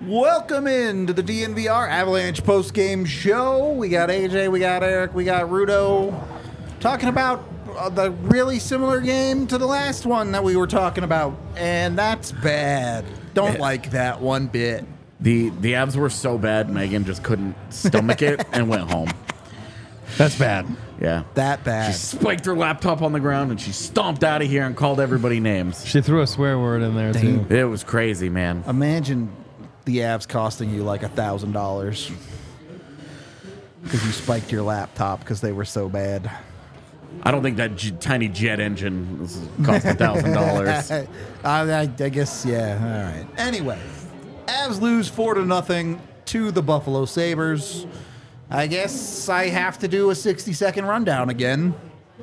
Welcome into the DNVR Avalanche post-game show. We got AJ, we got Eric, we got Rudo talking about the really similar game to the last one that we were talking about, and that's bad. Don't like that one bit. The Avs were so bad, Megan just couldn't stomach it and went home. That's bad. Yeah. That bad. She spiked her laptop on the ground and she stomped out of here and called everybody names. She threw a swear word in there, too. It was crazy, man. Imagine the Avs costing you like $1,000 because you spiked your laptop because they were so bad. I don't think that tiny jet engine cost $1,000. I guess, yeah. All right. Anyway, Avs lose 4-0 to the Buffalo Sabres. I guess I have to do a 60-second rundown again.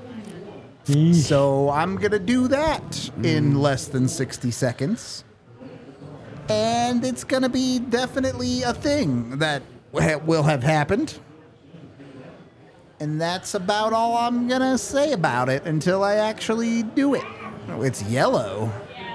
So I'm going to do that in less than 60 seconds. And it's going to be definitely a thing that will have happened. And that's about all I'm going to say about it until I actually do it. Oh, it's yellow.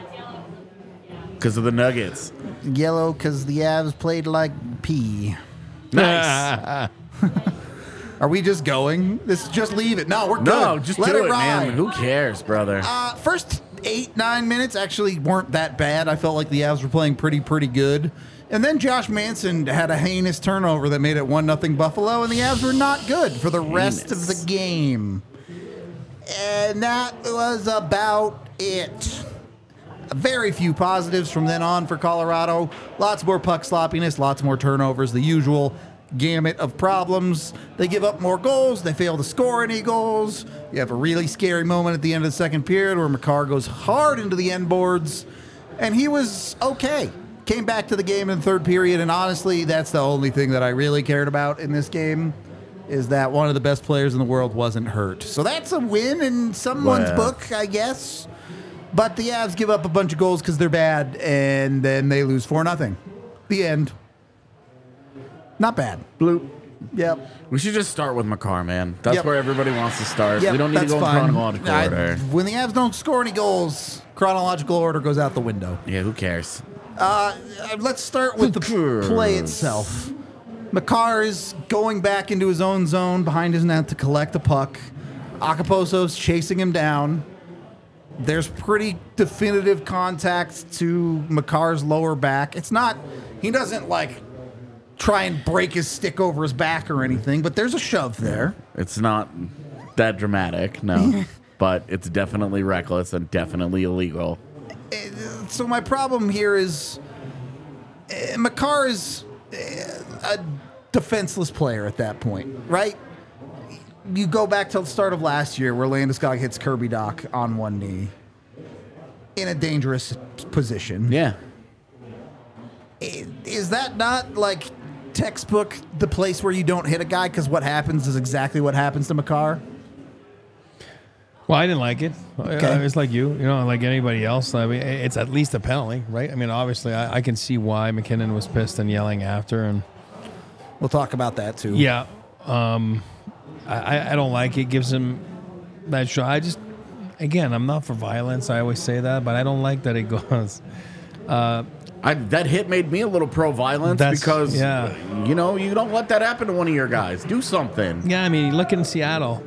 Because of the Nuggets. Yellow because the Avs played like pee. Nice. Are we just going? Just leave it. No, we're good. No, just Let do it, ride. man. Who cares, brother? First 8-9 minutes actually weren't that bad. I felt like the Avs were playing pretty good. And then Josh Manson had a heinous turnover that made it 1-0 Buffalo, and the Avs were not good for the rest of the game. And that was about it. Very few positives from then on for Colorado. Lots more puck sloppiness, lots more turnovers, the usual gamut of problems. They give up more goals. They fail to score any goals. You have a really scary moment at the end of the second period where Makar goes hard into the end boards, and he was okay. Came back to the game in the third period, and honestly, that's the only thing that I really cared about in this game, is that one of the best players in the world wasn't hurt. So that's a win in someone's book, I guess. But the Avs give up a bunch of goals because they're bad, and then they lose 4-0. The end. Not bad. Bloop. Yep. We should just start with Makar, man. That's Yep. where everybody wants to start. Yep, We don't need to that's go in fine. chronological order. When the Avs don't score any goals, chronological order goes out the window. Yeah, who cares? Let's start with the play itself. Makar is going back into his own zone behind his net to collect the puck. Akaposo's chasing him down. There's pretty definitive contact to Makar's lower back. It's not, he doesn't like try and break his stick over his back or anything, but there's a shove there. It's not that dramatic, no. But it's definitely reckless and definitely illegal. So my problem here is Makar is a defenseless player at that point, right? You go back to the start of last year where Landeskog hits Kirby Dach on one knee in a dangerous position. Yeah. Is that not like textbook the place where you don't hit a guy because what happens is exactly what happens to Makar? Well, I didn't like it. Okay. It's like like anybody else. I mean, it's at least a penalty, right? I mean, obviously, I can see why McKinnon was pissed and yelling after. And We'll talk about that too. yeah, I don't like it. Gives him that shot. Again, I'm not for violence. I always say that, but I don't like that it goes. That hit made me a little pro-violence because, you don't let that happen to one of your guys. Do something. Yeah, I mean, look in Seattle.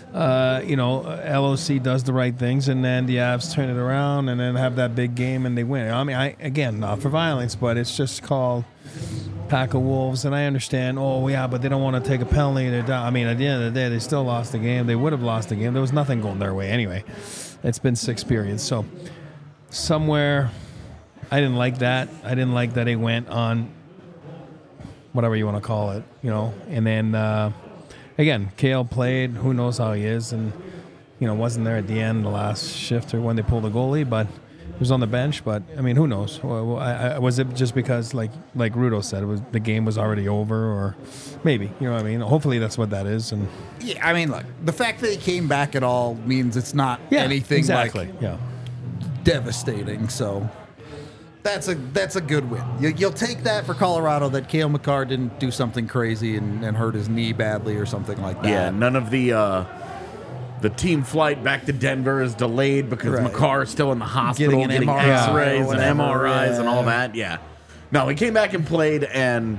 LOC does the right things, and then the Avs turn it around and then have that big game and they win. I mean, again, not for violence, but it's just called Pack of Wolves, and I understand, but they don't want to take a penalty. They're down. I mean, at the end of the day, they still lost the game. They would have lost the game. There was nothing going their way anyway. It's been 6 periods. So somewhere, I didn't like that. I didn't like that it went on whatever you want to call it, and then again, Kale played. Who knows how he is, and wasn't there at the end, the last shift or when they pulled the goalie, but he was on the bench. But I mean, who knows? Was it just because, like Rudo said, the game was already over, or maybe what I mean? Hopefully, that's what that is. And yeah, I mean, look, the fact that he came back at all means it's not anything exactly. devastating. So that's a good win. You'll take that for Colorado that Cale Makar didn't do something crazy and hurt his knee badly or something like that. Yeah, none of the team flight back to Denver is delayed because Makar is still in the hospital getting MRI X-rays or and whatever, MRIs and all that. Yeah. No, he came back and played, and,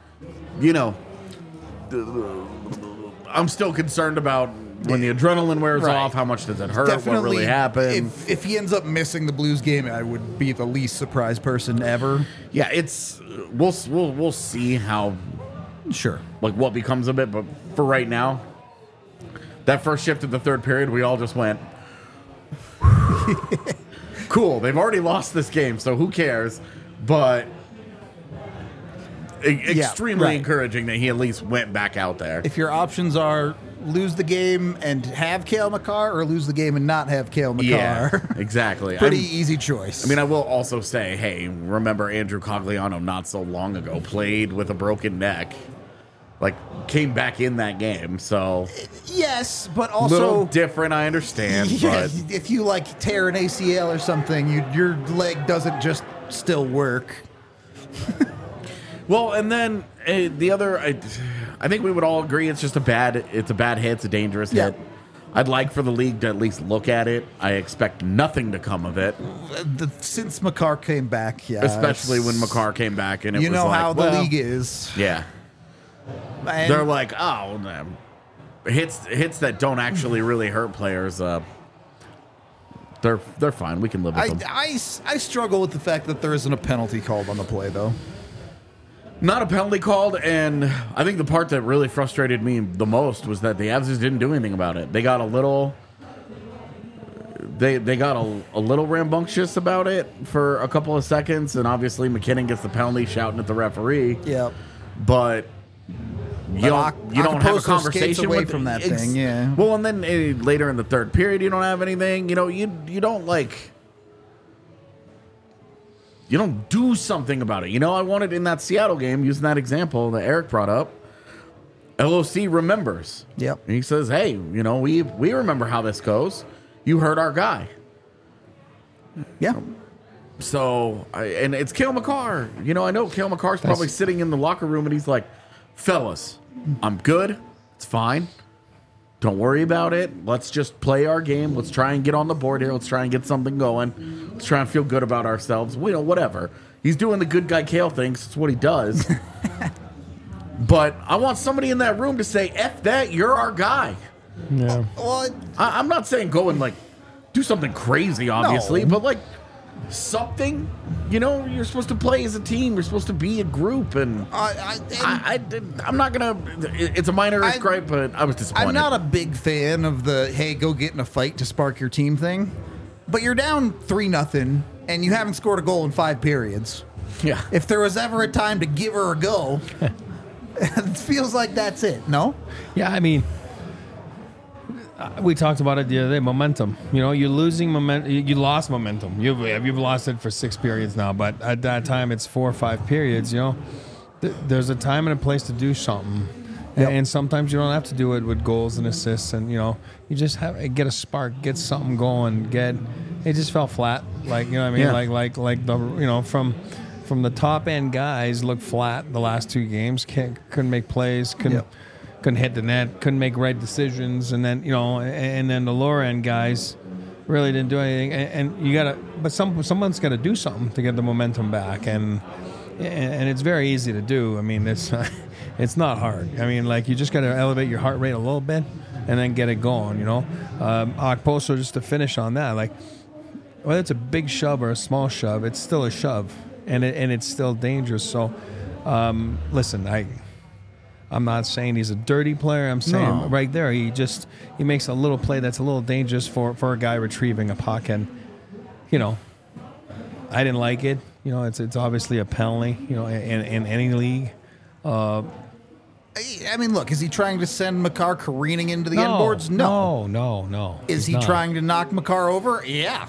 I'm still concerned about when the adrenaline wears off, how much does it hurt, what really happened. If he ends up missing the Blues game, I would be the least surprised person ever. Yeah, we'll see how, what becomes of it, but for right now, that first shift of the third period, we all just went, cool, they've already lost this game, so who cares? But extremely encouraging that he at least went back out there. If your options are lose the game and have Cale Makar or lose the game and not have Cale Makar. Yeah, exactly. Pretty easy choice. I mean, I will also say, hey, remember Andrew Cogliano not so long ago played with a broken neck. Came back in that game, so... Yes, but also... A little different, I understand, but... If you, tear an ACL or something, your leg doesn't just still work. Well, and then the other... I think we would all agree it's a bad hit, it's a dangerous hit. I'd like for the league to at least look at it. I expect nothing to come of it. Since Makar came back, Especially when Makar came back, and it was how the league is. Yeah. And they're like, oh, hits that don't actually really hurt players. They're fine. We can live with them. I struggle with the fact that there isn't a penalty called on the play, though. Not a penalty called, and I think the part that really frustrated me the most was that the Avs just didn't do anything about it. They got a little... They got a little rambunctious about it for a couple of seconds, and obviously McKinnon gets the penalty shouting at the referee. Yep. But... You don't have a conversation away from that thing, yeah. Well, and then later in the third period, you don't have anything. You don't you don't do something about it. I wanted in that Seattle game, using that example that Eric brought up, LOC remembers. Yep. And he says, hey, we remember how this goes. You hurt our guy. Yeah. So, and it's Cale Makar. I know Cale Makar's probably sitting in the locker room and he's like, fellas, I'm good. It's fine. Don't worry about it. Let's just play our game. Let's try and get on the board here. Let's try and get something going. Let's try and feel good about ourselves. Whatever. He's doing the good guy Cale things. It's what he does. But I want somebody in that room to say, F that, you're our guy. Yeah. Well, I'm not saying go and do something crazy, obviously, but something, you're supposed to play as a team. You're supposed to be a group, and I'm not gonna. It's a minor gripe, but I was disappointed. I'm not a big fan of the hey, go get in a fight to spark your team thing. But you're down 3-0, and you haven't scored a goal in 5 periods. Yeah. If there was ever a time to give her a go, it feels like that's it. No. Yeah, I mean. We talked about it the other day. Momentum. You're losing momentum. You lost momentum. You've lost it for 6 periods now. But at that time, it's 4 or 5 periods. There's a time and a place to do something, and sometimes you don't have to do it with goals and assists. And you just have to get a spark, get something going. It just fell flat. Like what I mean. Yeah. From the top end guys look flat the last 2 games. Couldn't make plays. Couldn't hit the net, couldn't make right decisions, and then and then the lower end guys really didn't do anything. But someone's got to do something to get the momentum back, and it's very easy to do. I mean, it's not hard. I mean, you just got to elevate your heart rate a little bit, and then get it going. Okposo, just to finish on that, whether it's a big shove or a small shove, it's still a shove, and it's still dangerous. So, listen, I'm not saying he's a dirty player. I'm saying right there, he makes a little play that's a little dangerous for a guy retrieving a puck, and I didn't like it. It's obviously a penalty. In any league. I mean, look, is he trying to send Makar careening into the end boards? No. Is he trying to knock Makar over? Yeah.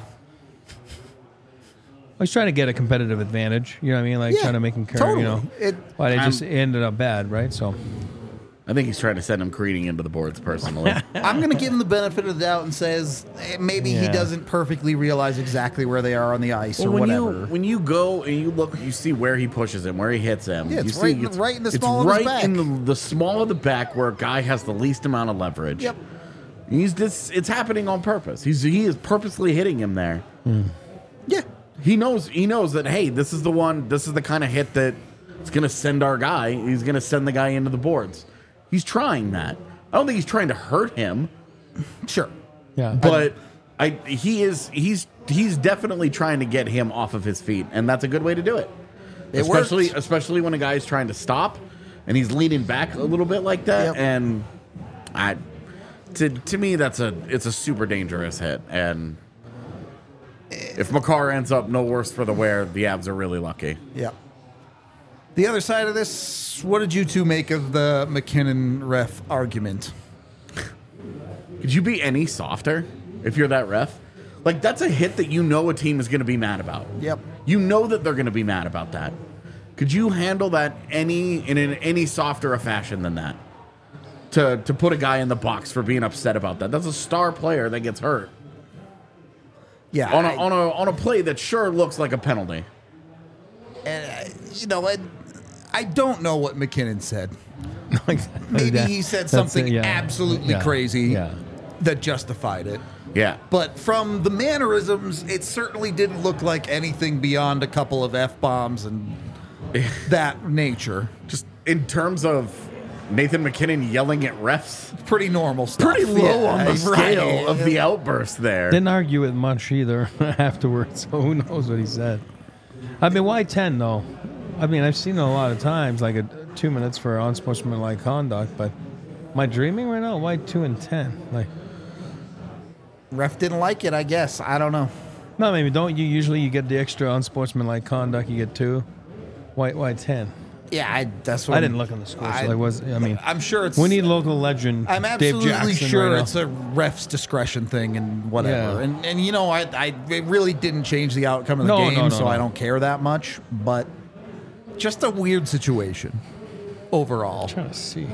He's trying to get a competitive advantage. You know what I mean? Trying to make him carry, totally. But it just ended up bad, right? So I think he's trying to send him careening into the boards personally. I'm going to give him the benefit of the doubt and says maybe he doesn't perfectly realize exactly where they are on the ice or whatever. When you go and you look, you see where he pushes him, where he hits him. Yeah, it's right in the small of his back. It's right in the small of the back where a guy has the least amount of leverage. Yep. It's happening on purpose. He is purposely hitting him there. Yeah. He knows that, hey, this is the kind of hit that it's going to send our guy. He's going to send the guy into the boards. He's trying that. I don't think he's trying to hurt him. Sure. Yeah. But he's definitely trying to get him off of his feet, and that's a good way to do it. Especially when a guy's trying to stop and he's leaning back a little bit like that. Yep. And to me, it's a super dangerous hit. And if Makar ends up no worse for the wear, the Avs are really lucky. Yeah. The other side of this, what did you two make of the McKinnon ref argument? Could you be any softer if you're that ref? Like, that's a hit that you know a team is going to be mad about. Yep. You know that they're going to be mad about that. Could you handle that in any softer a fashion than that? To put a guy in the box for being upset about that. That's a star player that gets hurt. Yeah. On a play that sure looks like a penalty. And I don't know what McKinnon said. Maybe he said something absolutely crazy that justified it. Yeah. But from the mannerisms, it certainly didn't look like anything beyond a couple of F-bombs and that nature. Just in terms of Nathan McKinnon yelling at refs. Pretty normal stuff. Pretty low on the scale of the outburst there. Didn't argue with much either afterwards, so who knows what he said. I mean, why 10, though? I mean, I've seen it a lot of times, like 2 minutes for unsportsmanlike conduct, but am I dreaming right now? Why 2 and 10? Like, ref didn't like it, I guess. I don't know. no, maybe don't you usually get the extra unsportsmanlike conduct? You get 2. Why 10? Yeah, that's what I didn't look in the score. I'm sure it's. We need local legend. I'm Dave absolutely Jackson sure right it's a ref's discretion thing and whatever. Yeah. And you know, it really didn't change the outcome of the game, so I don't care that much. But just a weird situation overall. I'm trying to see.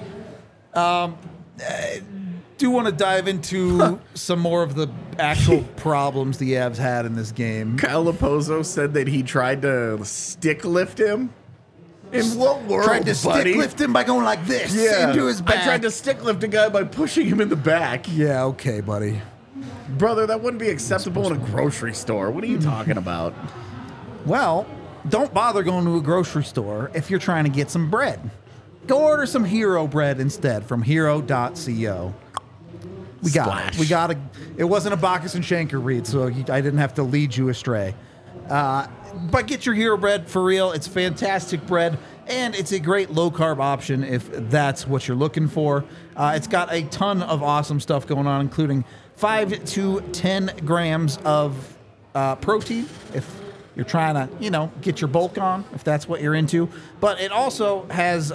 Do want to dive into some more of the actual problems the Avs had in this game. Kyle Raposo said that he tried to stick lift him. In what world, Tried to buddy? stick lift him by going like this into his back. I tried to stick lift a guy by pushing him in the back. Yeah, okay, buddy. Brother, that wouldn't be acceptable in a grocery store. What are you talking about? Well, don't bother going to a grocery store if you're trying to get some bread. Go order some Hero bread instead from hero.co. We got it. It wasn't a Bacchus and Shanker read, so I didn't have to lead you astray. But get your Hero bread for real. It's fantastic bread, and it's a great low-carb option if that's what you're looking for. It's got a ton of awesome stuff going on, including 5 to 10 grams of protein if you're trying to, get your bulk on, if that's what you're into. But it also has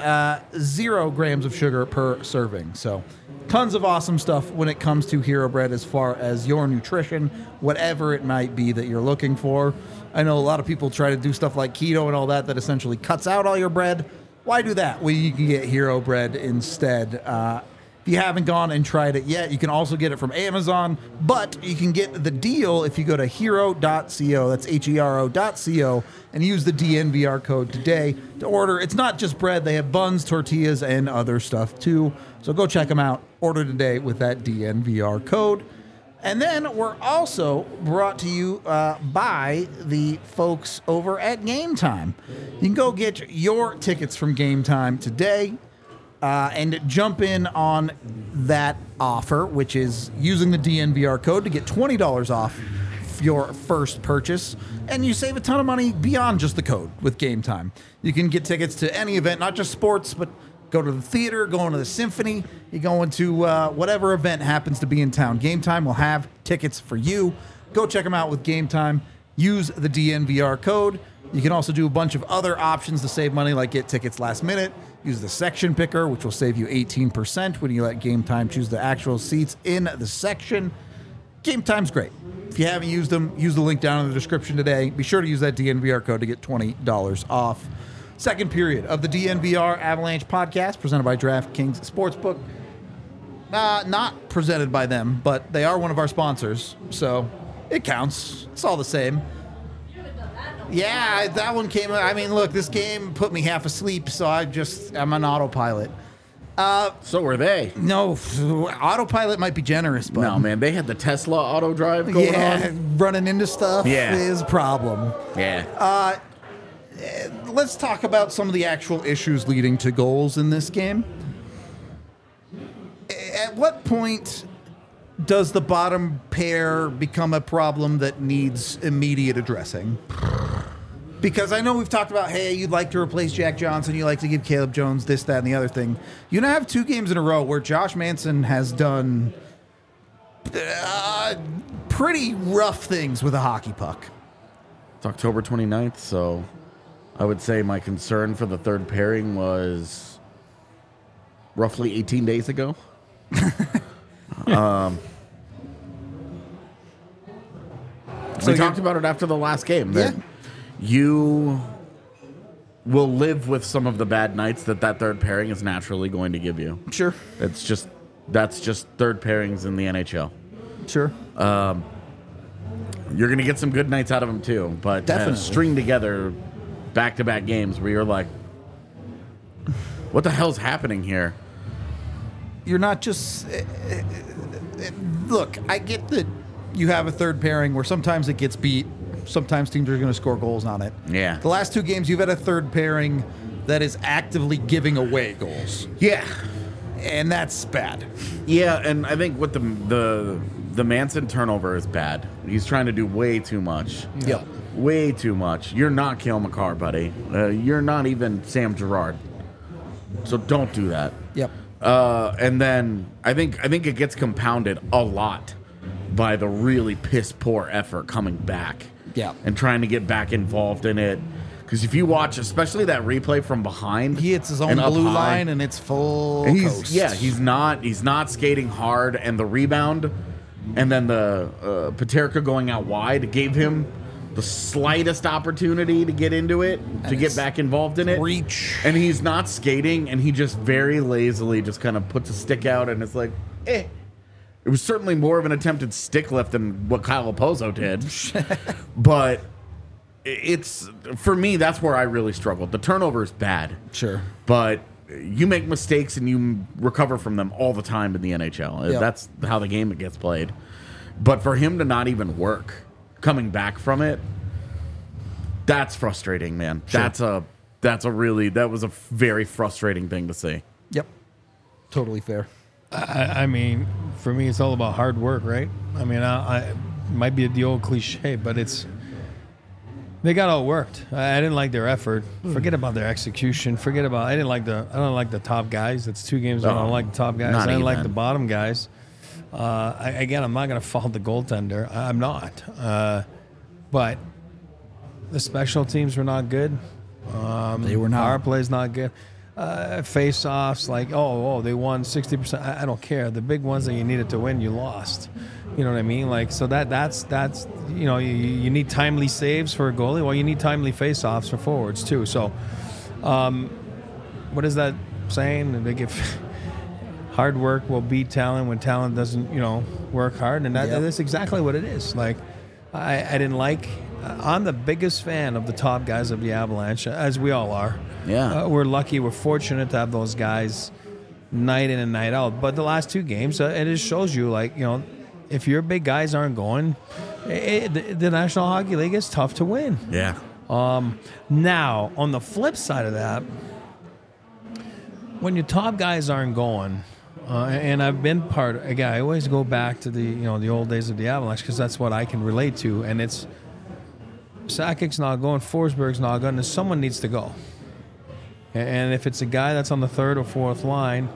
0 grams of sugar per serving. So tons of awesome stuff when it comes to Hero Bread as far as your nutrition, whatever it might be that you're looking for. I know a lot of people try to do stuff like keto and all that essentially cuts out all your bread. Why do that? Well, you can get Hero Bread instead. If you haven't gone and tried it yet, you can also get it from Amazon, but you can get the deal if you go to hero.co, that's hero.co, and use the DNVR code today to order. It's not just bread. They have buns, tortillas, and other stuff too. So go check them out. Order today with that DNVR code. And then we're also brought to you by the folks over at Game Time. You can go get your tickets from Game Time today. And jump in on that offer, which is using the DNVR code to get $20 off your first purchase. And you save a ton of money beyond just the code with Game Time. You can get tickets to any event, not just sports, but go to the theater, going to the symphony, you go into whatever event happens to be in town. Game Time will have tickets for you. Go check them out with Game Time. Use the DNVR code. You can also do a bunch of other options to save money, like get tickets last minute. Use the section picker, which will save you 18% when you let Game Time choose the actual seats in the section. Game Time's great. If you haven't used them, use the link down in the description today. Be sure to use that DNVR code to get $20 off. Second period of the DNVR Avalanche podcast, presented by DraftKings Sportsbook. Not presented by them, but they are one of our sponsors, so it counts. It's all the same. Yeah, that one came. I mean, look, this game put me half asleep, so I'm on autopilot. So were they. No, autopilot might be generous, but No, man, they had the Tesla auto drive going on. running into stuff is a problem. Yeah. Let's talk about some of the actual issues leading to goals in this game. At what point does the bottom pair become a problem that needs immediate addressing? Because I know we've talked about, hey, you'd like to replace Jack Johnson, you like to give Caleb Jones this, that, and the other thing. You now have 2 games in a row where Josh Manson has done pretty rough things with a hockey puck. It's October 29th, so I would say my concern for the third pairing was roughly 18 days ago. We talked about it after the last game. That you will live with some of the bad nights that third pairing is naturally going to give you. Sure. That's just third pairings in the NHL. Sure. You're going to get some good nights out of them too, but Definitely. String together back-to-back games where you're like, what the hell's happening here? You're not just... look, I get that you have a third pairing where sometimes it gets beat. Sometimes teams are going to score goals on it. Yeah. The last 2 games, you've had a third pairing that is actively giving away goals. Yeah. And that's bad. Yeah, and I think with the Manson turnover is bad. He's trying to do way too much. Yep. Way too much. You're not Cale Makar, buddy. You're not even Sam Girard. So don't do that. Yep. And then I think it gets compounded a lot by the really piss poor effort coming back. Yeah. And trying to get back involved in it. Because if you watch, especially that replay from behind, He hits his own and up blue high, line, and it's full and coast. he's not skating hard, and the rebound, and then the Paterka going out wide gave him the slightest opportunity to get into it, to get back involved in it. Reach. And he's not skating, and he just very lazily just kind of puts a stick out, and it's like, eh. It was certainly more of an attempted stick lift than what Kyle Opozo did. But it's, for me, that's where I really struggled. The turnover is bad. Sure. But you make mistakes and you recover from them all the time in the NHL. Yep. That's how the game gets played. But for him to not even work coming back from it, that's frustrating, man. Sure. That was a very frustrating thing to see. Yep. Totally fair. I mean, for me, it's all about hard work, right? I mean, I might be the old cliche, but they got outworked. I didn't like their effort. Forget about their execution. I don't like the top guys. It's 2 games I don't like the top guys. I don't like the bottom guys. I'm not going to fault the goaltender. I'm not. But the special teams were not good. They were not. Our play's not good. Face-offs, like, they won 60%. I don't care. The big ones that you needed to win, you lost. You know what I mean? Like, so that's you need timely saves for a goalie. Well, you need timely face-offs for forwards too. So, what is that saying? They give hard work will beat talent when talent doesn't, work hard, and that's exactly what it is. Like, I didn't like. I'm the biggest fan of the top guys of the Avalanche, as we all are. Yeah. We're lucky. We're fortunate to have those guys night in and night out. But the last 2 games, it just shows you, if your big guys aren't going, the National Hockey League is tough to win. Yeah. Now, on the flip side of that, when your top guys aren't going, and I've been I always go back to the old days of the Avalanche because that's what I can relate to, and it's Sakic's not going, Forsberg's not going, and someone needs to go. And if it's a guy that's on the 3rd or 4th line,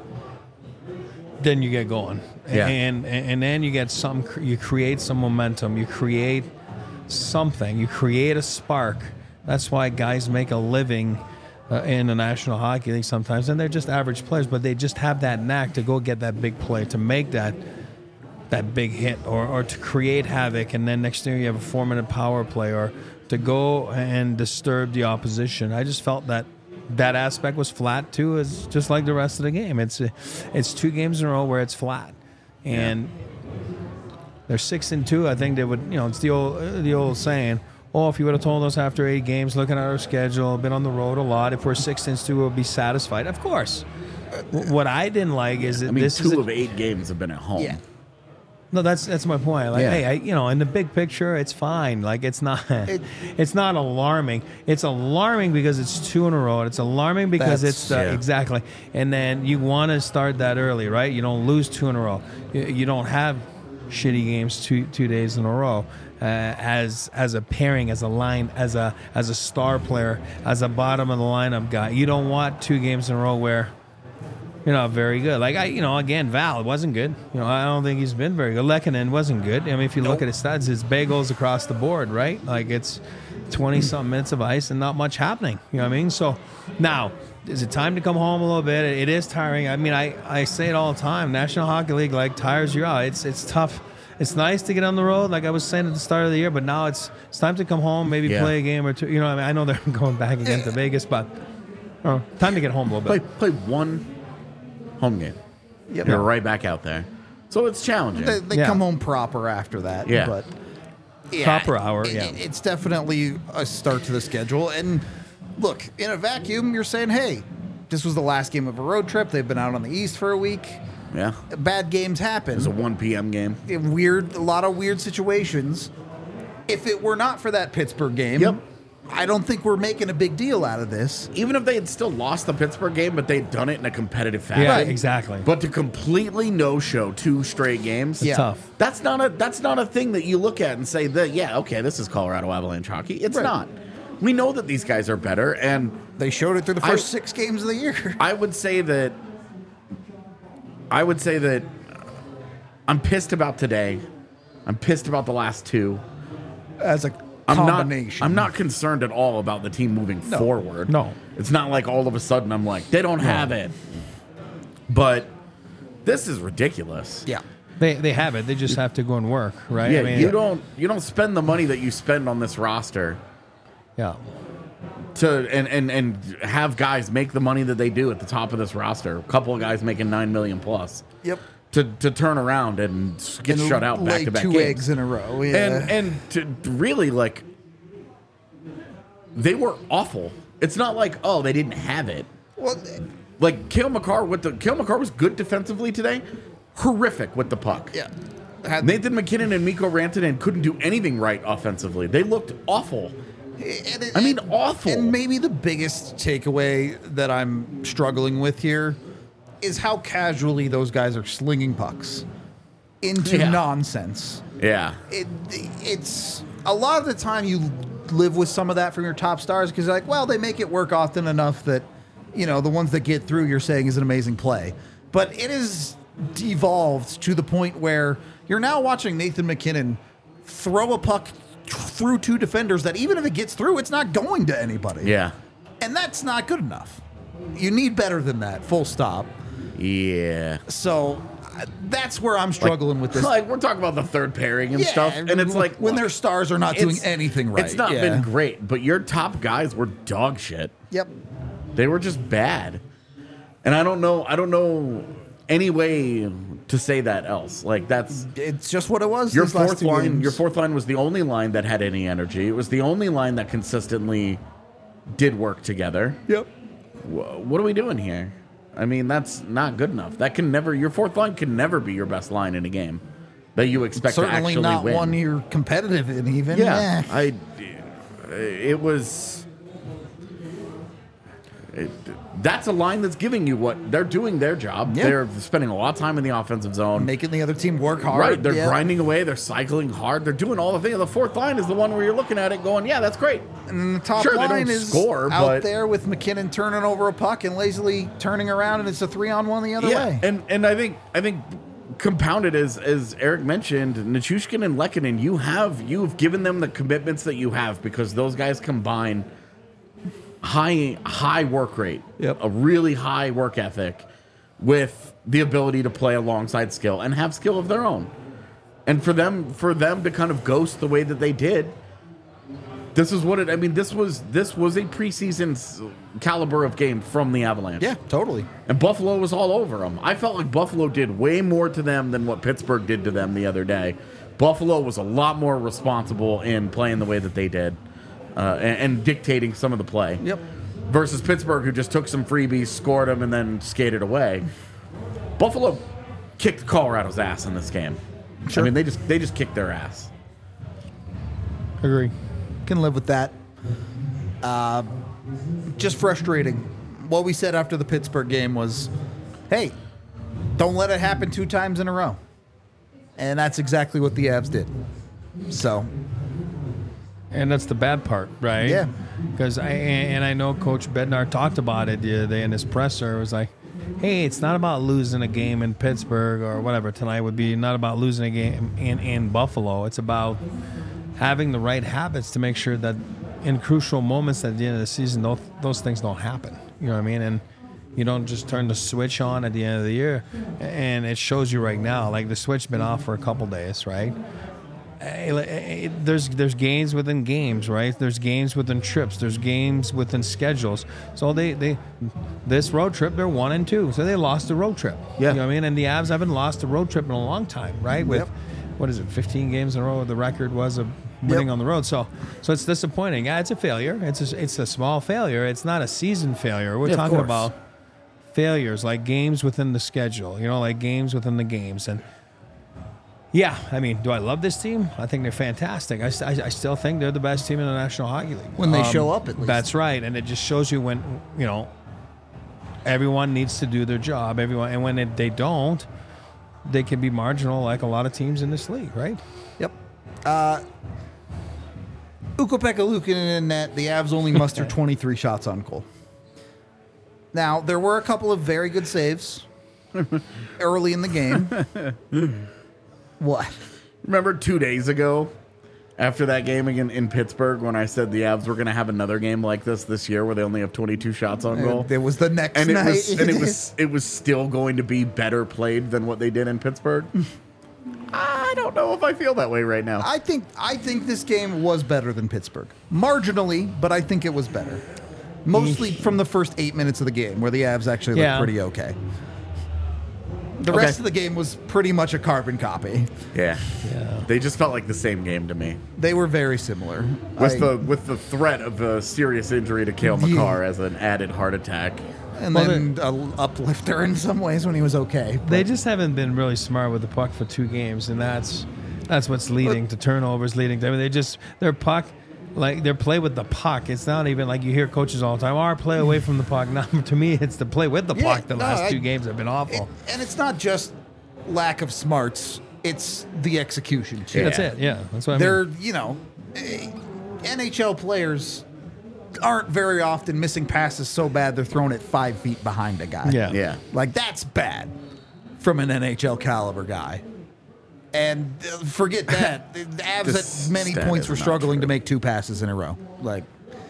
then you get going. Yeah. And then you get you create some momentum, you create something, you create a spark. That's why guys make a living in the National Hockey League sometimes, and they're just average players, but they just have that knack to go get that big play, to make that big hit, or to create havoc, and then next thing you have a 4-minute power play, or to go and disturb the opposition. I just felt that aspect was flat too, is just like the rest of the game. It's 2 games in a row where it's flat, and they're 6-2. I think they would, it's the old saying. Oh, if you would have told us after 8 games, looking at our schedule, been on the road a lot, if we're 6-2, we'll be satisfied. Of course. What I didn't like is that I mean, this is 2 of 8 games have been at home. Yeah. no, that's my point. Like, Yeah. hey, in the big picture, it's fine. Like, it's not it's not alarming. It's alarming because it's 2 in a row. It's alarming because That's- it's yeah. exactly. And then you want to start that early, right? You don't lose 2 in a row. You don't have shitty games two days in a row. As a pairing, as a line, as a star player, as a bottom of the lineup guy, you don't want 2 games in a row where you're not very good. Like again, Val wasn't good. I don't think he's been very good. Lehkonen wasn't good. I mean, if you look at his stats, his bagels across the board, right? Like it's 20-something minutes of ice and not much happening. You know what I mean? So now, is it time to come home a little bit? It is tiring. I mean, I say it all the time. National Hockey League tires you out. It's tough. It's nice to get on the road, like I was saying at the start of the year, but now it's time to come home, maybe Yeah. play a game or 2. I mean, I know they're going back again to Vegas, but time to get home a little bit. Play one home game. Yep. You're right back out there. So it's challenging. They Yeah. come home proper after that. Yeah. But Proper hour, yeah. It's definitely a start to the schedule. And look, in a vacuum, you're saying, hey, this was the last game of a road trip. They've been out on the East for a week. Yeah. Bad games happen. It's a 1 p.m. game. A lot of weird situations. If it were not for that Pittsburgh game, Yep. I don't think we're making a big deal out of this. Even if they had still lost the Pittsburgh game, but they'd done it in a competitive fashion. Yeah, exactly. But to completely no-show 2 straight games, Yeah. Tough. that's not a thing that you look at and say that, yeah, okay, this is Colorado Avalanche hockey. It's Right. not. We know that these guys are better, and They showed it through the first 6 games of the year. I would say that I'm pissed about today. I'm pissed about the last 2. As a combination. I'm not concerned at all about the team moving forward. No. It's not like all of a sudden I'm like, they don't have it. But this is ridiculous. Yeah. They have it. They just have to go and work, right? Yeah, I mean, you don't spend the money that you spend on this roster Yeah. to and have guys make the money that they do at the top of this roster. A couple of guys making $9 million plus. Yep. To turn around and get And shut out lay back to back 2 games. eggs in a row. Yeah. And to really, like, they were awful. It's not like, oh, they didn't have it. well, Like Cale Makar was good defensively today. Horrific with the puck. yeah. Nathan McKinnon and Mikko Rantanen couldn't do anything right offensively. They looked awful. Awful. And maybe the biggest takeaway that I'm struggling with here is how casually those guys are slinging pucks into Yeah. nonsense. Yeah. It's a lot of the time you live with some of that from your top stars because you're like, well, they make it work often enough that, the ones that get through you're saying is an amazing play. But it is devolved to the point where you're now watching Nathan McKinnon throw a puck through 2 defenders that even if it gets through, it's not going to anybody. Yeah. And that's not good enough. You need better than that, full stop. Yeah. So that's where I'm struggling with this. Like, we're talking about the third pairing and stuff. And it's like, when look, their stars are not doing it's- anything right. It's not Yeah. been great, but your top guys were dog shit. Yep. They were just bad. And I don't know any way to say that else. Like, that's It's just what it was. your these last fourth 2 line. games. Your fourth line was the only line that had any energy. It was the only line that consistently did work together. Yep. What are we doing here? I mean, that's not good enough. That can never. Your fourth line can never be your best line in a game that you expect to Certainly actually not win. one you're competitive in. Even Yeah, Eh. it was. That's a line that's giving you what they're doing their job. Yeah. They're spending a lot of time in the offensive zone. Making the other team work hard. Right, they're yeah. grinding away. They're cycling hard. They're doing all the things. The fourth line is the one where you're looking at it, going, "Yeah, that's great." And then the top Sure, they line don't is score, out but- there with McKinnon turning over a puck and lazily turning around, and it's a 3-on-1 the other way. and I think compounded as Eric mentioned, Nichushkin and Lehkonen, you've given them the commitments that you have because those guys combine high work rate, a really high work ethic, with the ability to play alongside skill and have skill of their own. And for them to kind of ghost the way that they did, this is what it. I mean, this was a preseason caliber of game from the Avalanche. Yeah, totally. And Buffalo was all over them. I felt like Buffalo did way more to them than what Pittsburgh did to them the other day. Buffalo was a lot more responsible in playing the way that they did and dictating some of the play. Yep. versus Pittsburgh, who just took some freebies, scored them, and then skated away. Buffalo kicked Colorado's ass in this game. Sure. I mean, they just kicked their ass. Agree. Can live with that. Just frustrating. What we said after the Pittsburgh game was, hey, don't let it happen 2 times in a row. And that's exactly what the Avs did. So, And that's the bad part, right? Yeah. Because I know Coach Bednar talked about it the other day in his presser. It was like, hey, it's not about losing a game in Pittsburgh or whatever tonight would be, not about losing a game in Buffalo. It's about having the right habits to make sure that in crucial moments at the end of the season, those things don't happen. You know what I mean? And you don't just turn the switch on at the end of the year. And it shows you right now, like the switch been off for a couple days, right? There's games within games, right? There's games within trips. There's games within schedules. So this road trip, they're 1-2. So they lost the road trip. Yeah. You know what I mean? And the Avs haven't lost a road trip in a long time, right? With, Yep. what is it, 15 games in a row? The record was of winning Yep. on the road. So it's disappointing. Yeah, it's a failure. It's a small failure. It's not a season failure. We're Yeah, of talking course. about failures, like games within the schedule, like games within the games. And yeah, I mean, do I love this team? I think they're fantastic. I still think they're the best team in the National Hockey League. When they show up, at least. That's right. And it just shows you when, everyone needs to do their job. And when they don't, they can be marginal like a lot of teams in this league, right? Yep. Ukko-Pekka Luukkonen in net. The Avs only mustered 23 shots on goal. Now, there were a couple of very good saves early in the game. What? Remember 2 days ago, after that game in Pittsburgh, when I said the Avs were going to have another game like this year, where they only have 22 shots on goal, It was the next and night. it was still going to be better played than what they did in Pittsburgh. I don't know if I feel that way right now. I think this game was better than Pittsburgh. Marginally, but I think it was better. Mostly from the first 8 minutes of the game, where the Avs actually looked pretty okay. The rest of the game was pretty much a carbon copy. Yeah, they just felt like the same game to me, They were very similar. with the threat of a serious injury to Cale Makar as an added heart attack. And then an uplifter in some ways when he was okay. They just haven't been really smart with the puck for 2 games, and that's what's leading to turnovers, their puck, like their play with the puck. It's not even like you hear coaches all the time, our play away from the puck. No, to me, it's the play with the puck. The last 2 games have been awful. And it's not just lack of smarts, it's the execution too. That's it. Yeah, that's what I They're, mean. NHL players aren't very often missing passes so bad they're thrown it 5 feet behind a guy. Yeah. Like, that's bad from an NHL caliber guy. And forget that. The Avs This at many stat points is were not struggling true. to make 2 passes in a row. Like,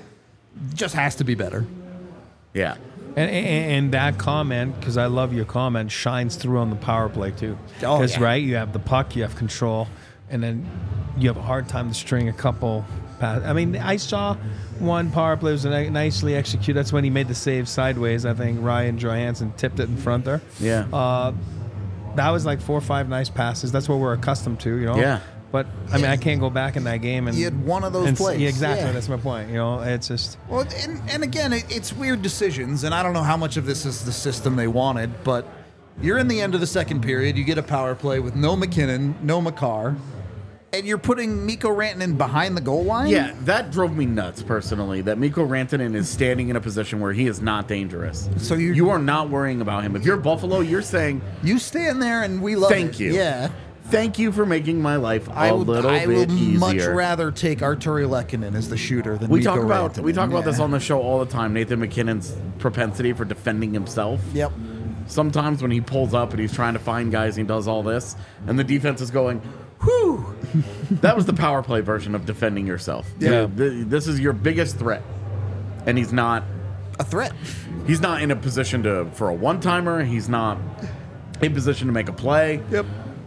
just has to be better. Yeah. And that comment, because I love your comment, shines through on the power play too. Oh, Because yeah. right, you have the puck, you have control, and then you have a hard time to string a couple passes. I mean, I saw one power play was nicely executed. That's when he made the save sideways. I think Ryan Johansson tipped it in front there. Yeah. That was like 4 or 5 nice passes. That's what we're accustomed to, Yeah. But I mean, I can't go back in that game and He had one of those and plays. Yeah, exactly. Yeah. That's my point. It's just Well, and again, it's weird decisions, and I don't know how much of this is the system they wanted, but you're in the end of the second period, you get a power play with no McKinnon, no Makar, and you're putting Mikko Rantanen behind the goal line? Yeah, that drove me nuts personally. That Mikko Rantanen is standing in a position where he is not dangerous. So you are not worrying about him. If you're Buffalo, you're saying, You stand there and we love Thank it. you. Yeah. "Thank you for making my life a I little would bit easier." much rather take Arturi Lehkonen as the shooter than We Mikko talk about Rantanen. this on the show all the time. Nathan McKinnon's propensity for defending himself. Yep. Sometimes when he pulls up and he's trying to find guys, he does all this, and the defense is going, "Whew." That was the power play version of defending yourself. Yeah. This is your biggest threat, and he's not. A threat. He's not in a position for a one-timer. He's not in position to make a play. Yep.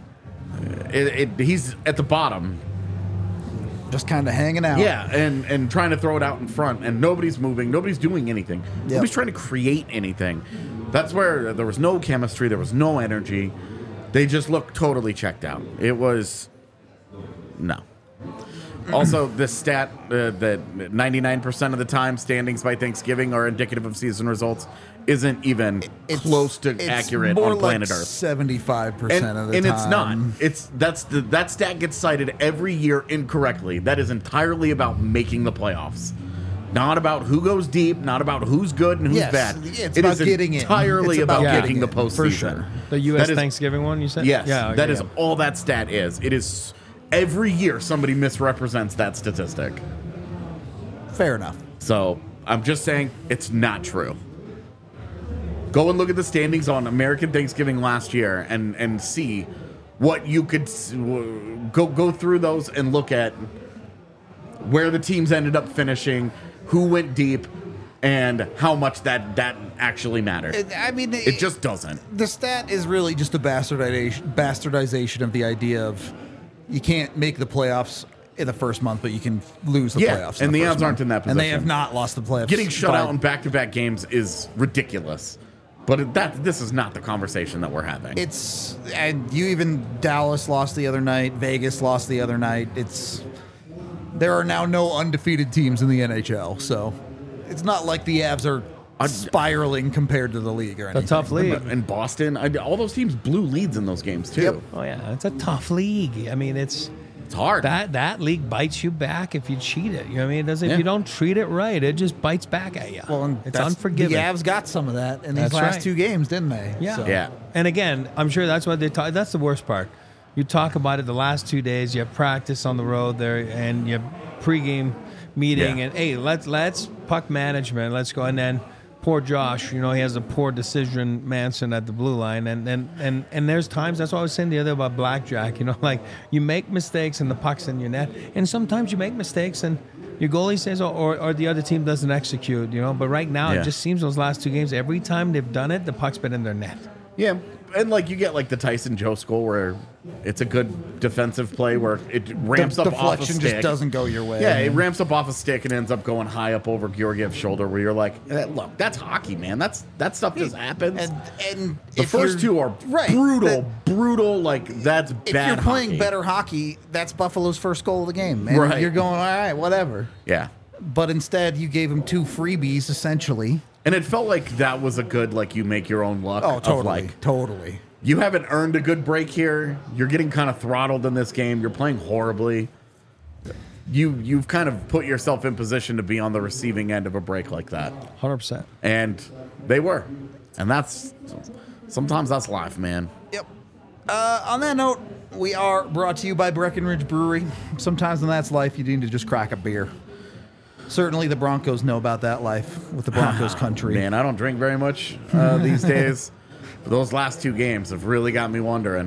He's at the bottom. Just kind of hanging out. Yeah, and trying to throw it out in front, and nobody's moving. Nobody's doing anything. Yep. Nobody's trying to create anything. That's where there was no chemistry. There was no energy. They just looked totally checked out. It was... No. Also, the stat that 99% of the time standings by Thanksgiving are indicative of season results isn't even close to accurate more on planet like Earth. 75% of the And time. it's not. That stat gets cited every year incorrectly. That is entirely about making the playoffs. Not about who goes deep, not about who's good and who's Yes, bad. it's It about is getting in. entirely It's about about getting making the in, for postseason. sure. The U.S. That is- Thanksgiving one, you said? Yes, Yeah, that okay, is yeah. all that stat is. It is every year somebody misrepresents that statistic. Fair enough. So I'm just saying it's not true. Go and look at the standings on American Thanksgiving last year and see what you could go through those and look at where the teams ended up finishing, who went deep, and how much that actually mattered. It just doesn't. The stat is really just a bastardization of the idea of you can't make the playoffs in the first month, but you can lose the Yeah, playoffs. and the first Avs aren't month. in that And they position. have not lost the playoffs. Getting shut by- out in back-to-back games is ridiculous. But this is not the conversation that we're having. It's and you even Dallas lost the other night. Vegas lost the other night. There are now no undefeated teams in the NHL, so it's not like the Avs are spiraling compared to the league or A anything. tough league. And Boston, all those teams blew leads in those games too. Yep. Oh yeah, it's a tough league. I mean, it's hard. that league bites you back if you cheat it. You know what I mean? It doesn't. Yeah. If you don't treat it right, it just bites back at you. Well, and it's that's- unforgiving. The Avs got some of that in these That's last right. 2 games, didn't they? Yeah. So- Yeah. And again, I'm sure that's what they talk. That's the worst part. You talk about it the last 2 days. You have practice on the road there, and you have pregame meeting, Yeah. and hey, let's puck management. Let's go, and then poor Josh. You know, he has a poor decision, Manson at the blue line, and there's times. That's what I was saying the other about blackjack. You know, like you make mistakes and the puck's in your net, and sometimes you make mistakes and your goalie says, or the other team doesn't execute. You know, but right now Yeah. it just seems those last 2 games, every time they've done it, the puck's been in their net. Yeah, and like you get like the Tyson Joe goal where it's a good defensive play where it ramps up off a deflection stick. just doesn't go your way. Yeah, it ramps up off a stick and ends up going high up over Georgiev's shoulder where you're like, look, that's hockey, man. That stuff just happens. And The if first you're- 2 are right, brutal. Like that's If bad. you're playing hockey. better hockey, that's Buffalo's first goal of the game. And Right. you're going, all right, whatever. Yeah. But instead, you gave him 2 freebies, essentially. And it felt like that was a good, like, you make your own luck. Oh, totally. Of like, Totally. you haven't earned a good break here. You're getting kind of throttled in this game. You're playing horribly. You've kind of put yourself in position to be on the receiving end of a break like that. 100%. And they were. And sometimes that's life, man. Yep. On that note, we are brought to you by Breckenridge Brewery. Sometimes when that's life, you need to just crack a beer. Certainly the Broncos know about that life with the Broncos country. Man, I don't drink very much these days. But those last 2 games have really got me wondering.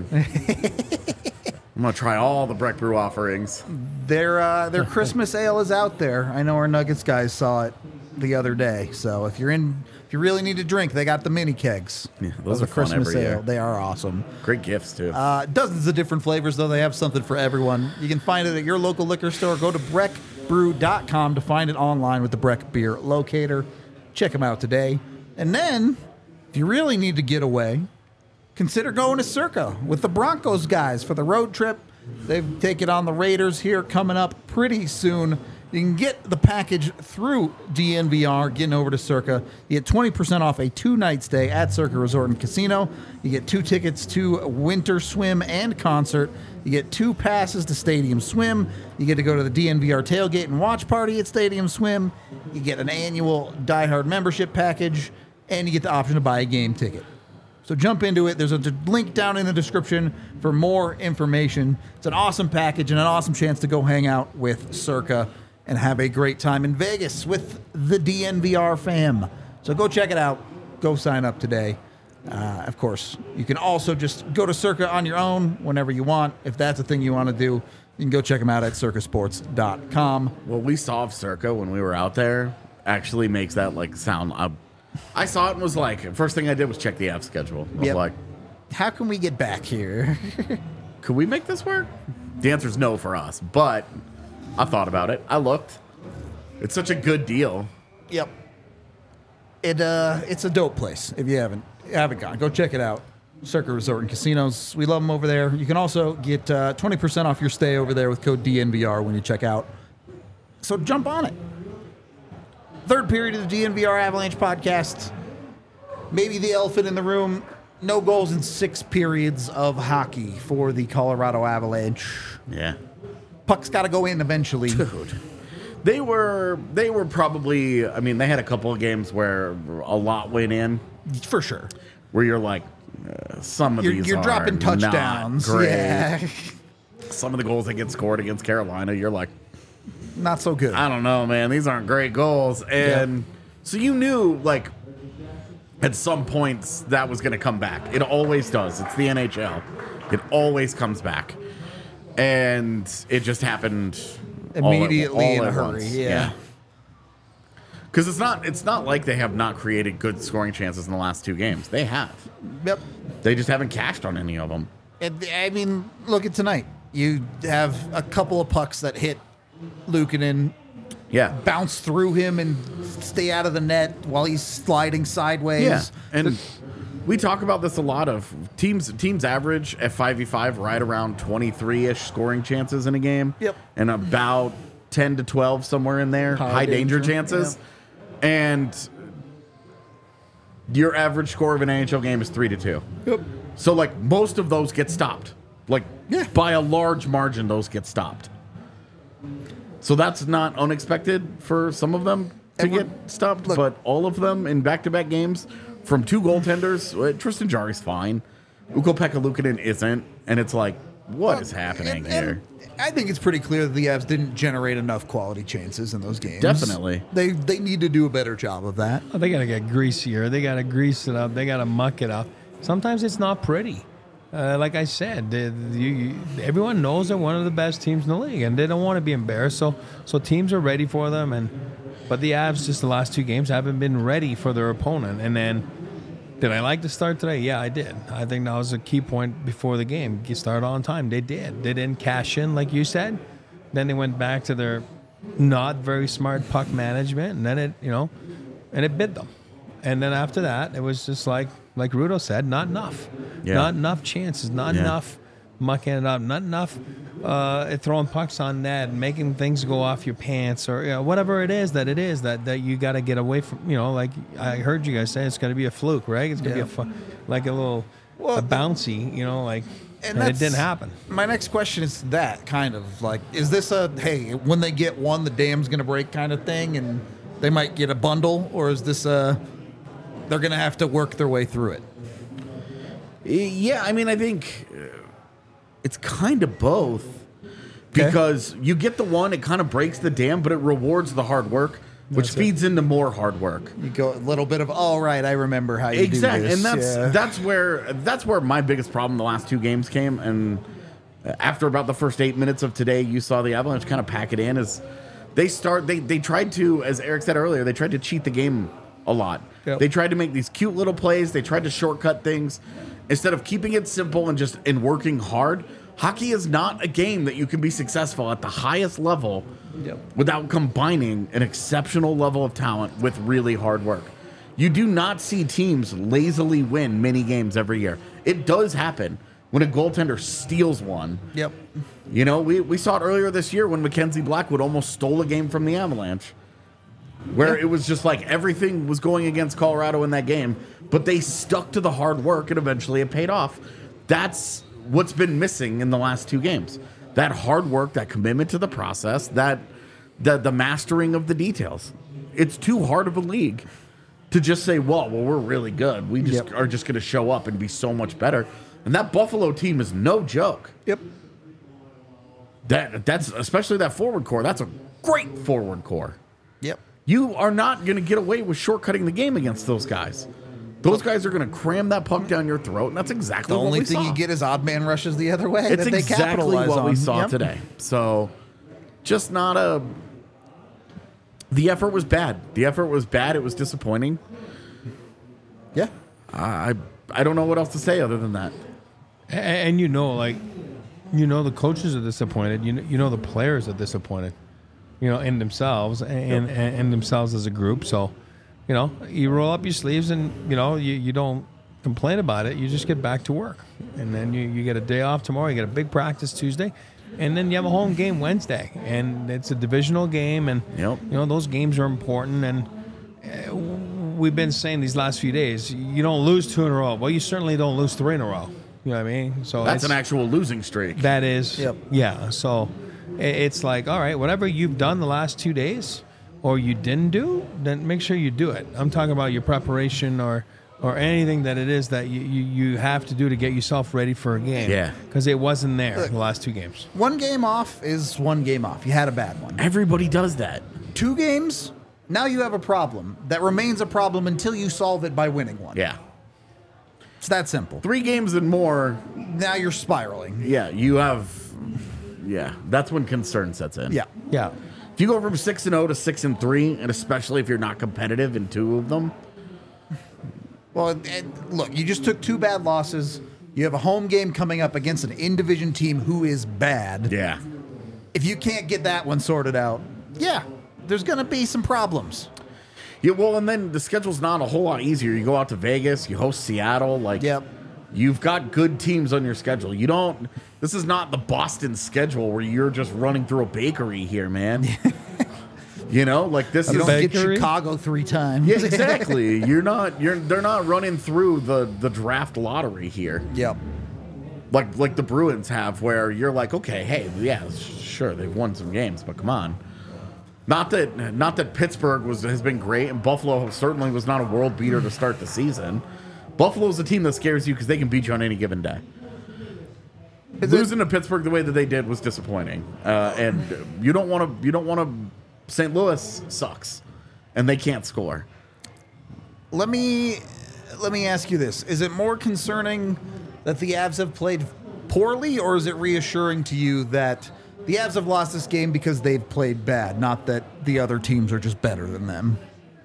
I'm going to try all the Breck Brew offerings. Their Christmas ale is out there. I know our Nuggets guys saw it the other day. So if you really need a drink, they got the mini kegs. Yeah, those of are fun Christmas every ale. year. They are awesome. Great gifts, too. Dozens of different flavors, though. They have something for everyone. You can find it at your local liquor store. Go to breckbrew.com to find it online with the Breck Beer Locator. Check them out today. And then, if you really need to get away, consider going to Circa with the Broncos guys for the road trip. They've taken on the Raiders here coming up pretty soon. You can get the package through DNVR, getting over to Circa. You get 20% off a 2-night stay at Circa Resort and Casino. You get 2 tickets to Winter Swim and Concert. You get 2 passes to Stadium Swim. You get to go to the DNVR tailgate and watch party at Stadium Swim. You get an annual Die Hard membership package, and you get the option to buy a game ticket. So jump into it. There's a link down in the description for more information. It's an awesome package and an awesome chance to go hang out with Circa and have a great time in Vegas with the DNVR fam. So go check it out. Go sign up today. Of course, you can also just go to Circa on your own whenever you want. If that's a thing you want to do, you can go check them out at circasports.com. What we saw of Circa when we were out there actually makes that like sound. I saw it and was like, first thing I did was check the app schedule. I was Yep. like, How can we get back here? could we make this work? The answer is no for us, but I thought about it. I looked. It's such a good deal. Yep. It's a dope place. If you haven't gone, go check it out. Circuit Resort and Casinos. We love them over there. You can also get 20% off your stay over there with code DNVR when you check out. So jump on it. Third period of the DNVR Avalanche podcast. Maybe the elephant in the room. No goals in 6 periods of hockey for the Colorado Avalanche. Yeah. Puck's got to go in eventually. Dude. They were probably, I mean, they had a couple of games where a lot went in. For sure. Where you're like, some of these you're are dropping touchdowns. Not great. Yeah. Some of the goals that get scored against Carolina, you're like, Not so good. I don't know, man. These aren't great goals. And so you knew, like, at some points that was going to come back. It always does. It's the NHL. It always comes back. And it just happened immediately in a at hurry. once. Yeah. Because it's not like they have not created good scoring chances in the last 2 games. They have. Yep. They just haven't cashed on any of them. I mean, look at tonight. You have a couple of pucks that hit Luukkonen, Yeah. bounce through him and stay out of the net while he's sliding sideways. Yeah. And we talk about this a lot of teams average at 5v5 right around 23-ish scoring chances in a game. Yep. And about 10 to 12 somewhere in there, high danger chances. And your average score of an NHL game is 3-2. Yep. So, like, most of those get stopped. Like, by a large margin, those get stopped. So that's not unexpected for some of them to get stopped, but all of them in back-to-back games from 2 goaltenders, Tristan Jarry's fine. Ukko-Pekka Luukkonen isn't, and it's like, what is happening here? I think it's pretty clear that the Avs didn't generate enough quality chances in those games. Definitely. They need to do a better job of that. Oh, they got to get greasier. They got to grease it up. They got to muck it up. Sometimes it's not pretty. Like I said, everyone knows they're one of the best teams in the league, and they don't want to be embarrassed. So teams are ready for them, but the Avs just the last 2 games haven't been ready for their opponent. And then, did I like the start today? Yeah, I did. I think that was a key point before the game. You start on time. They did. They didn't cash in, like you said. Then they went back to their not very smart puck management, and then it bit them. And then after that, it was just like Rudo said, not enough. Yeah. Not enough chances, not enough mucking it up, not enough throwing pucks on net, making things go off your pants, or whatever it is that you got to get away from. Like I heard you guys say, it's going to be a fluke, right? It's going to be like a little a bouncy, and it didn't happen. My next question is that kind of like, is this a, hey, when they get one, the dam's going to break kind of thing, and they might get a bundle, or is this they're going to have to work their way through it? Yeah, I mean, I think it's kind of both. Because you get the one, it kind of breaks the dam, but it rewards the hard work, which feeds into more hard work. You go a little bit of, all right, I remember how you do this. And that's where my biggest problem the last 2 games came. And after about the first 8 minutes of today, you saw the Avalanche kind of pack it in. As they tried to, as Eric said earlier, they tried to cheat the game a lot. Yep. They tried to make these cute little plays. They tried to shortcut things instead of keeping it simple and working hard. Hockey is not a game that you can be successful at the highest level without combining an exceptional level of talent with really hard work. You do not see teams lazily win many games every year. It does happen when a goaltender steals one. Yep. We saw it earlier this year when Mackenzie Blackwood almost stole a game from the Avalanche, where it was just like everything was going against Colorado in that game, but they stuck to the hard work and eventually it paid off. That's what's been missing in the last 2 games. That hard work, that commitment to the process, that the mastering of the details. It's too hard of a league to just say, well, we're really good. We just are just going to show up and be so much better. And that Buffalo team is no joke. Yep. That's especially that forward core. That's a great forward core. Yep. You are not going to get away with shortcutting the game against those guys. Those guys are going to cram that puck down your throat, and that's exactly the what only we thing saw. you get is odd man rushes the other way. It's that they exactly capitalize what on. we saw today. So, just not a. The effort was bad. It was disappointing. Yeah. I don't know what else to say other than that. And the coaches are disappointed. The players are disappointed. In themselves and themselves as a group. So, you roll up your sleeves and you don't complain about it. You just get back to work, and then you get a day off tomorrow. You get a big practice Tuesday, and then you have a home game Wednesday, and it's a divisional game, and Yep. those games are important. And we've been saying these last few days, you don't lose 2 in a row. Well, you certainly don't lose 3 in a row. You know what I mean? So That's an actual losing streak. that is, Yep. yeah. So it's like, all right, whatever you've done the last 2 days or you didn't do, then make sure you do it. I'm talking about your preparation or anything that it is that you have to do to get yourself ready for a game. Yeah. Because it wasn't there the last 2 games. One game off is one game off. You had a bad one. Everybody does that. 2 games, now you have a problem that remains a problem until you solve it by winning one. Yeah. It's that simple. 3 games and more, Now you're spiraling. yeah, you have, yeah, that's when concern sets in. Yeah. Yeah. If you go from 6-0 to 6-3, and especially if you're not competitive in 2 of them, Well, and look, you just took 2 bad losses. You have a home game coming up against an in-division team who is bad. yeah. If you can't get that one sorted out, yeah, there's going to be some problems. Yeah, well, and then the schedule's not a whole lot easier. You go out to Vegas, you host Seattle, like, Yep. you've got good teams on your schedule. You don't, this is not the Boston schedule where you're just running through a bakery here, man. Like this You is don't get bakery? Chicago 3 times. yeah, exactly. They're not running through the draft lottery here. Yep. Like the Bruins have, where you're like, okay, hey, yeah, sure, they've won some games, but come on. Not that Pittsburgh has been great, and Buffalo certainly was not a world beater to start the season. Buffalo's a team that scares you because they can beat you on any given day. Losing to Pittsburgh the way that they did was disappointing, and you don't want to. St. Louis sucks, and they can't score. Let me ask you this. Is it more concerning that the Avs have played poorly, or is it reassuring to you that the Avs have lost this game because they've played bad, not that the other teams are just better than them?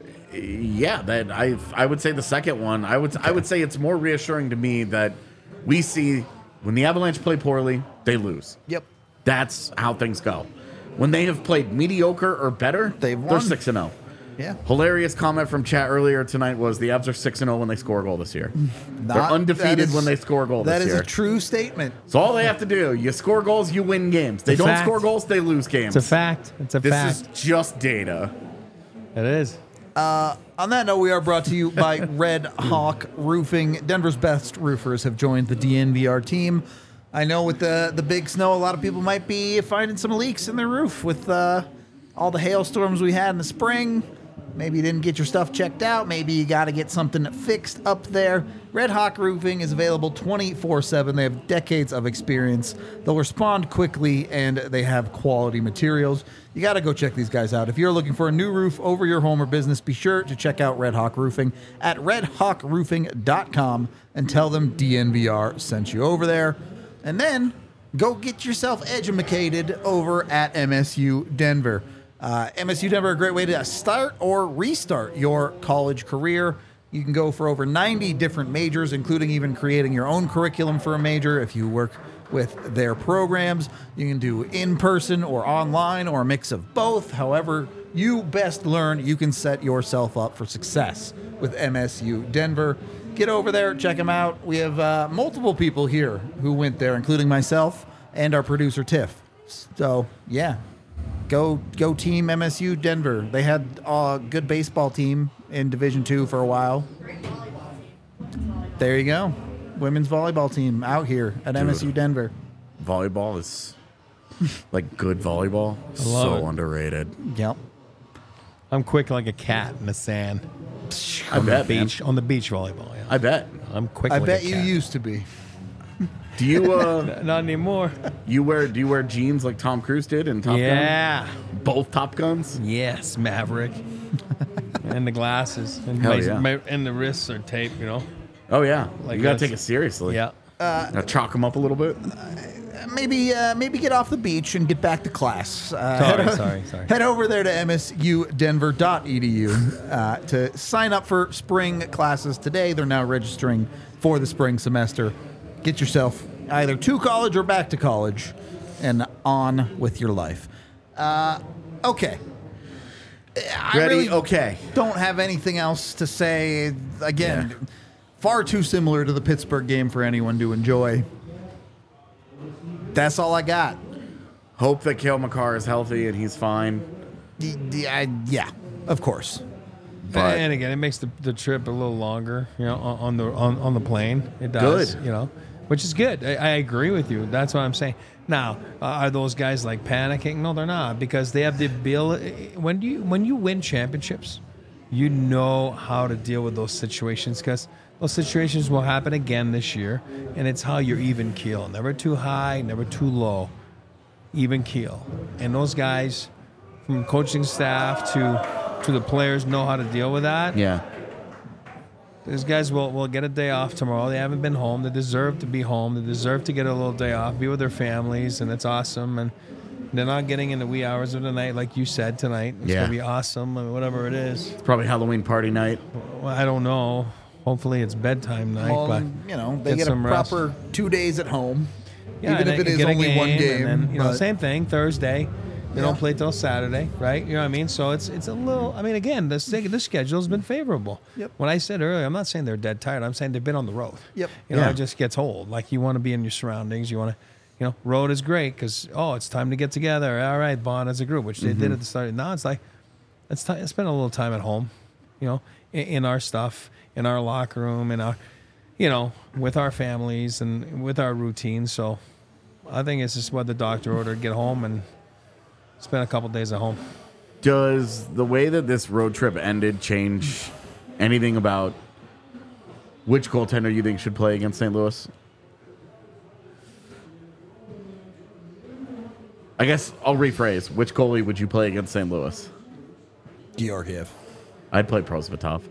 Yeah, that I would say the second one. I would say it's more reassuring to me that we see when the Avalanche play poorly, they lose. Yep. That's how things go. When they have played mediocre or better, They're they're won. 6-0. Yeah. Hilarious comment from chat earlier tonight was the Avs are 6-0 when they score a goal this year. They're Not- undefeated that is- when they score a goal That this is year. a true statement. So all they have to do, you score goals, you win games. They It's a don't fact. score goals, they lose games. It's a fact. It's a This fact. is just data. It is. On that note, we are brought to you by Red Hawk Roofing. Denver's best roofers have joined the DNVR team. I know with the big snow, a lot of people might be finding some leaks in their roof with all the hailstorms we had in the spring. Maybe you didn't get your stuff checked out. Maybe you got to get something fixed up there. Red Hawk Roofing is available 24/7. They have decades of experience. They'll respond quickly, and they have quality materials. You got to go check these guys out. If you're looking for a new roof over your home or business, be sure to check out Red Hawk Roofing at redhawkroofing.com and tell them DNVR sent you over there. And then go get yourself educated over at MSU Denver. MSU Denver, a great way to start or restart your college career. You can go for over 90 different majors, including even creating your own curriculum for a major if you work with their programs. You can do in-person or online or a mix of both. However you best learn, you can set yourself up for success with MSU Denver. Get over there, check them out. We have multiple people here who went there, including myself and our producer, Tiff. So, yeah. Go team MSU Denver. They had a good baseball team in Division II for a while. There you go. Women's volleyball team out here at MSU Denver. Volleyball is like good volleyball. love So it. underrated. Yep. I'm quick like a cat in the sand. I bet, man. Beach on the beach volleyball. Yeah. I bet. I'm quick. I like bet a you cat. used to be. Do you Not anymore. do you wear jeans like Tom Cruise did in Top Gun? Yeah. Both Top Guns? Yes, Maverick. And the glasses. And, Hell yeah. and the wrists are taped, Oh yeah. Like you gotta this. take it seriously. Yeah. Now chalk them up a little bit. Maybe get off the beach and get back to class. Sorry. Head over there to msudenver.edu to sign up for spring classes today. They're now registering for the spring semester. Get yourself either to college or back to college and on with your life. Okay. I Ready? really Okay. don't have anything else to say. Again, far too similar to the Pittsburgh game for anyone to enjoy. That's all I got. Hope that Cale Makar is healthy and he's fine. Yeah, of course. But and again, it makes the trip a little longer, on the plane. It does, Good. Which is good. I agree with you. That's what I'm saying. Now, are those guys like panicking? No, they're not, because they have the ability. When you win championships, you know how to deal with those situations, because those situations will happen again this year, and it's how you're even keel. Never too high, never too low. Even keel. And those guys, from coaching staff to the players, know how to deal with that. yeah. These guys will get a day off tomorrow. They haven't been home. They deserve to be home. They deserve to get a little day off, be with their families, and it's awesome. And they're not getting in the wee hours of the night, like you said tonight. It's Yeah. going to be awesome, whatever it is. It's probably Halloween party night. Well, I don't know. Hopefully it's bedtime night. Well, but they get get a some rest. proper 2 days at home, Yeah, even and if it then is get a only one game. And then, but- same thing, Thursday. They Yeah. don't play till Saturday, right? You know what I mean? So it's a little. I mean, again, the schedule's been favorable. Yep. When I said earlier, I'm not saying they're dead tired. I'm saying they've been on the road. Yep. Yeah. It just gets old. Like, you want to be in your surroundings. You want to, road is great because it's time to get together. All right, bond as a group, which they did at the start. Now it's like let's spend a little time at home, in our stuff, in our locker room, in our, with our families and with our routines. So I think it's just what the doctor ordered: get home and spend a couple days at home. Does the way that this road trip ended change anything about which goaltender you think should play against St. Louis? I guess I'll rephrase. Which goalie would you play against St. Louis? Georgiev. I'd play Prosvetov.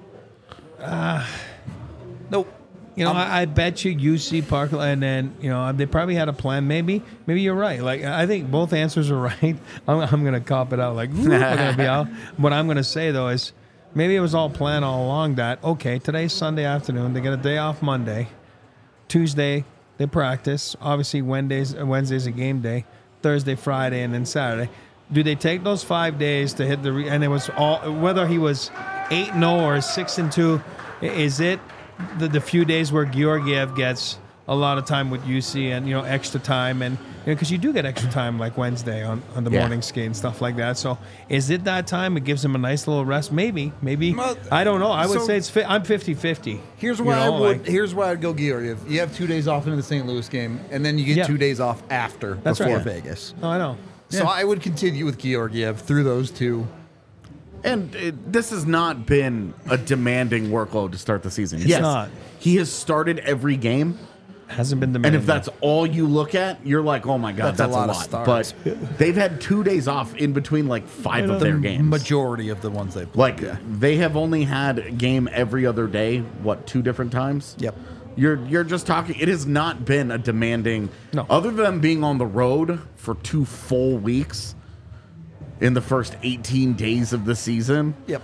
Nope. I bet you UC Park, and then they probably had a plan. Maybe you're right. Like, I think both answers are right. I'm gonna cop it out. Like, ooh, we're gonna be out. What I'm gonna say though is, maybe it was all planned all along. That okay, today's Sunday afternoon. They get a day off Monday, Tuesday they practice. Obviously Wednesday's a game day. Thursday, Friday, and then Saturday. Do they take those 5 days to hit and it was all, whether he was 8-0 or 6-2? Is it the few days where Georgiev gets a lot of time with UC and extra time, and because you do get extra time like Wednesday on the morning skate and stuff like that. So is it that time? It gives him a nice little rest. Maybe Well, I don't know. I would so- say I'm 50-50. Here's why Here's why I'd go Georgiev. You have 2 days off into the St. Louis game, and then you get Yeah. 2 days off after That's before right. Vegas. No, I know. So I would continue with Georgiev through those two. And this has not been a demanding workload to start the season. It's not. He has started every game. Hasn't been And demanding. if that's all you look at, you're like, oh my God, That's that's a a lot of lot. starts. But they've had 2 days off in between like 5 of their games. Majority of the ones they played. Like they have only had a game every other day, 2 different times? Yep. You're just talking, it has not been a demanding, No. other than being on the road for 2 full weeks in the first 18 days of the season. Yep.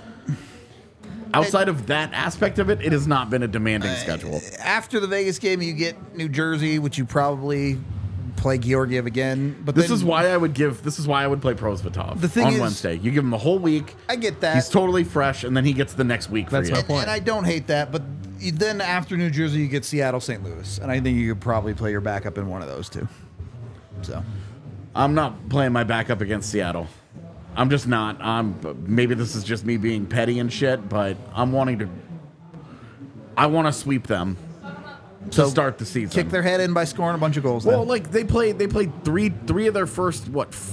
Outside of that aspect of it, it has not been a demanding schedule. After the Vegas game, you get New Jersey, which you probably play Georgiev again. But This then- is why I would play Prosvetov The thing on is- Wednesday. You give him the whole week. I get that. He's totally fresh, and then he gets the next week That's for my you. point. And I don't hate that, but then after New Jersey, you get Seattle, St. Louis, and I think you could probably play your backup in one of those two. So I'm not playing my backup against Seattle. I'm just not. Maybe this is just me being petty and shit, but I want to sweep them to So start the season. kick their head in by scoring a bunch of goals. Well, then. like they played three of their first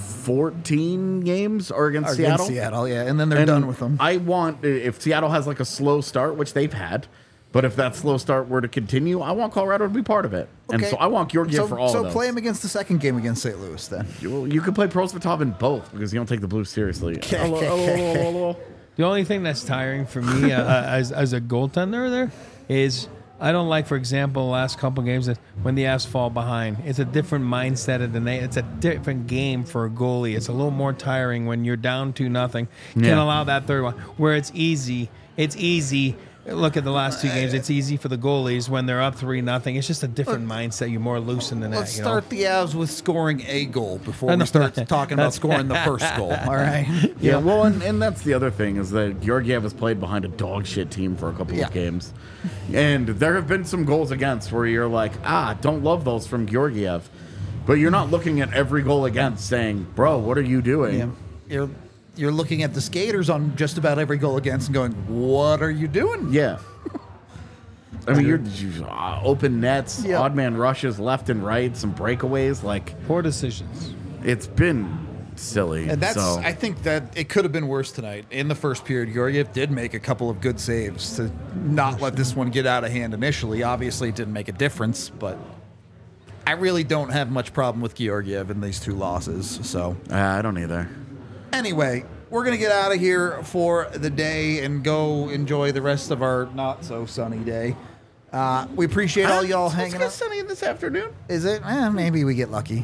14 games are against Against Seattle. Seattle, yeah, and then they're And done with them. I want, if Seattle has like a slow start, which they've had, but if that slow start were to continue, I want Colorado to be part of it. And Okay. so I want Georgiev for all so of those. play him against the second game against St. Louis then. You could play Prosvetov in both because you don't take the Blues seriously. Hello. The only thing that's tiring for me as a goaltender there is I don't like, for example, the last couple games that when the Avs fall behind. It's a different mindset of the night. It's a different game for a goalie. It's a little more tiring when you're down 2-0. You Yeah. can't allow that third one where it's easy. It's easy. Look at the last two games. It's easy for the goalies when they're up 3-0. It's just a different mindset. You're more loosened than that. Let's start the Avs with scoring a goal before we start talking about scoring the first goal. All right. Yeah, well, and that's the other thing is that Georgiev has played behind a dog shit team for a couple of games. And there have been some goals against where you're like, don't love those from Georgiev. But you're not looking at every goal against saying, bro, what are you doing? Yeah. You're looking at the skaters on just about every goal against and going, what are you doing? Yeah. I mean, you're open nets, odd man rushes left and right, some breakaways. Like poor decisions. It's been silly. And I think that it could have been worse tonight. In the first period, Georgiev did make a couple of good saves to not let this one get out of hand initially. Obviously, it didn't make a difference, but I really don't have much problem with Georgiev in these two losses. So I don't either. Anyway, we're going to get out of here for the day and go enjoy the rest of our not-so-sunny day. We appreciate all y'all hanging out. It's sunny this afternoon. Is it? Maybe we get lucky.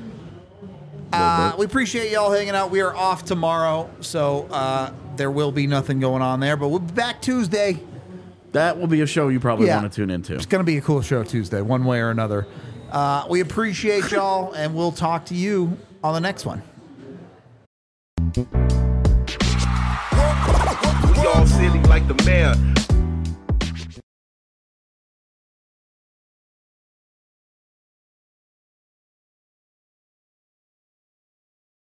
We appreciate y'all hanging out. We are off tomorrow, so there will be nothing going on there. But we'll be back Tuesday. That will be a show you probably want to tune into. It's going to be a cool show Tuesday, one way or another. We appreciate y'all, and we'll talk to you on the next one. We all silly like the mayor.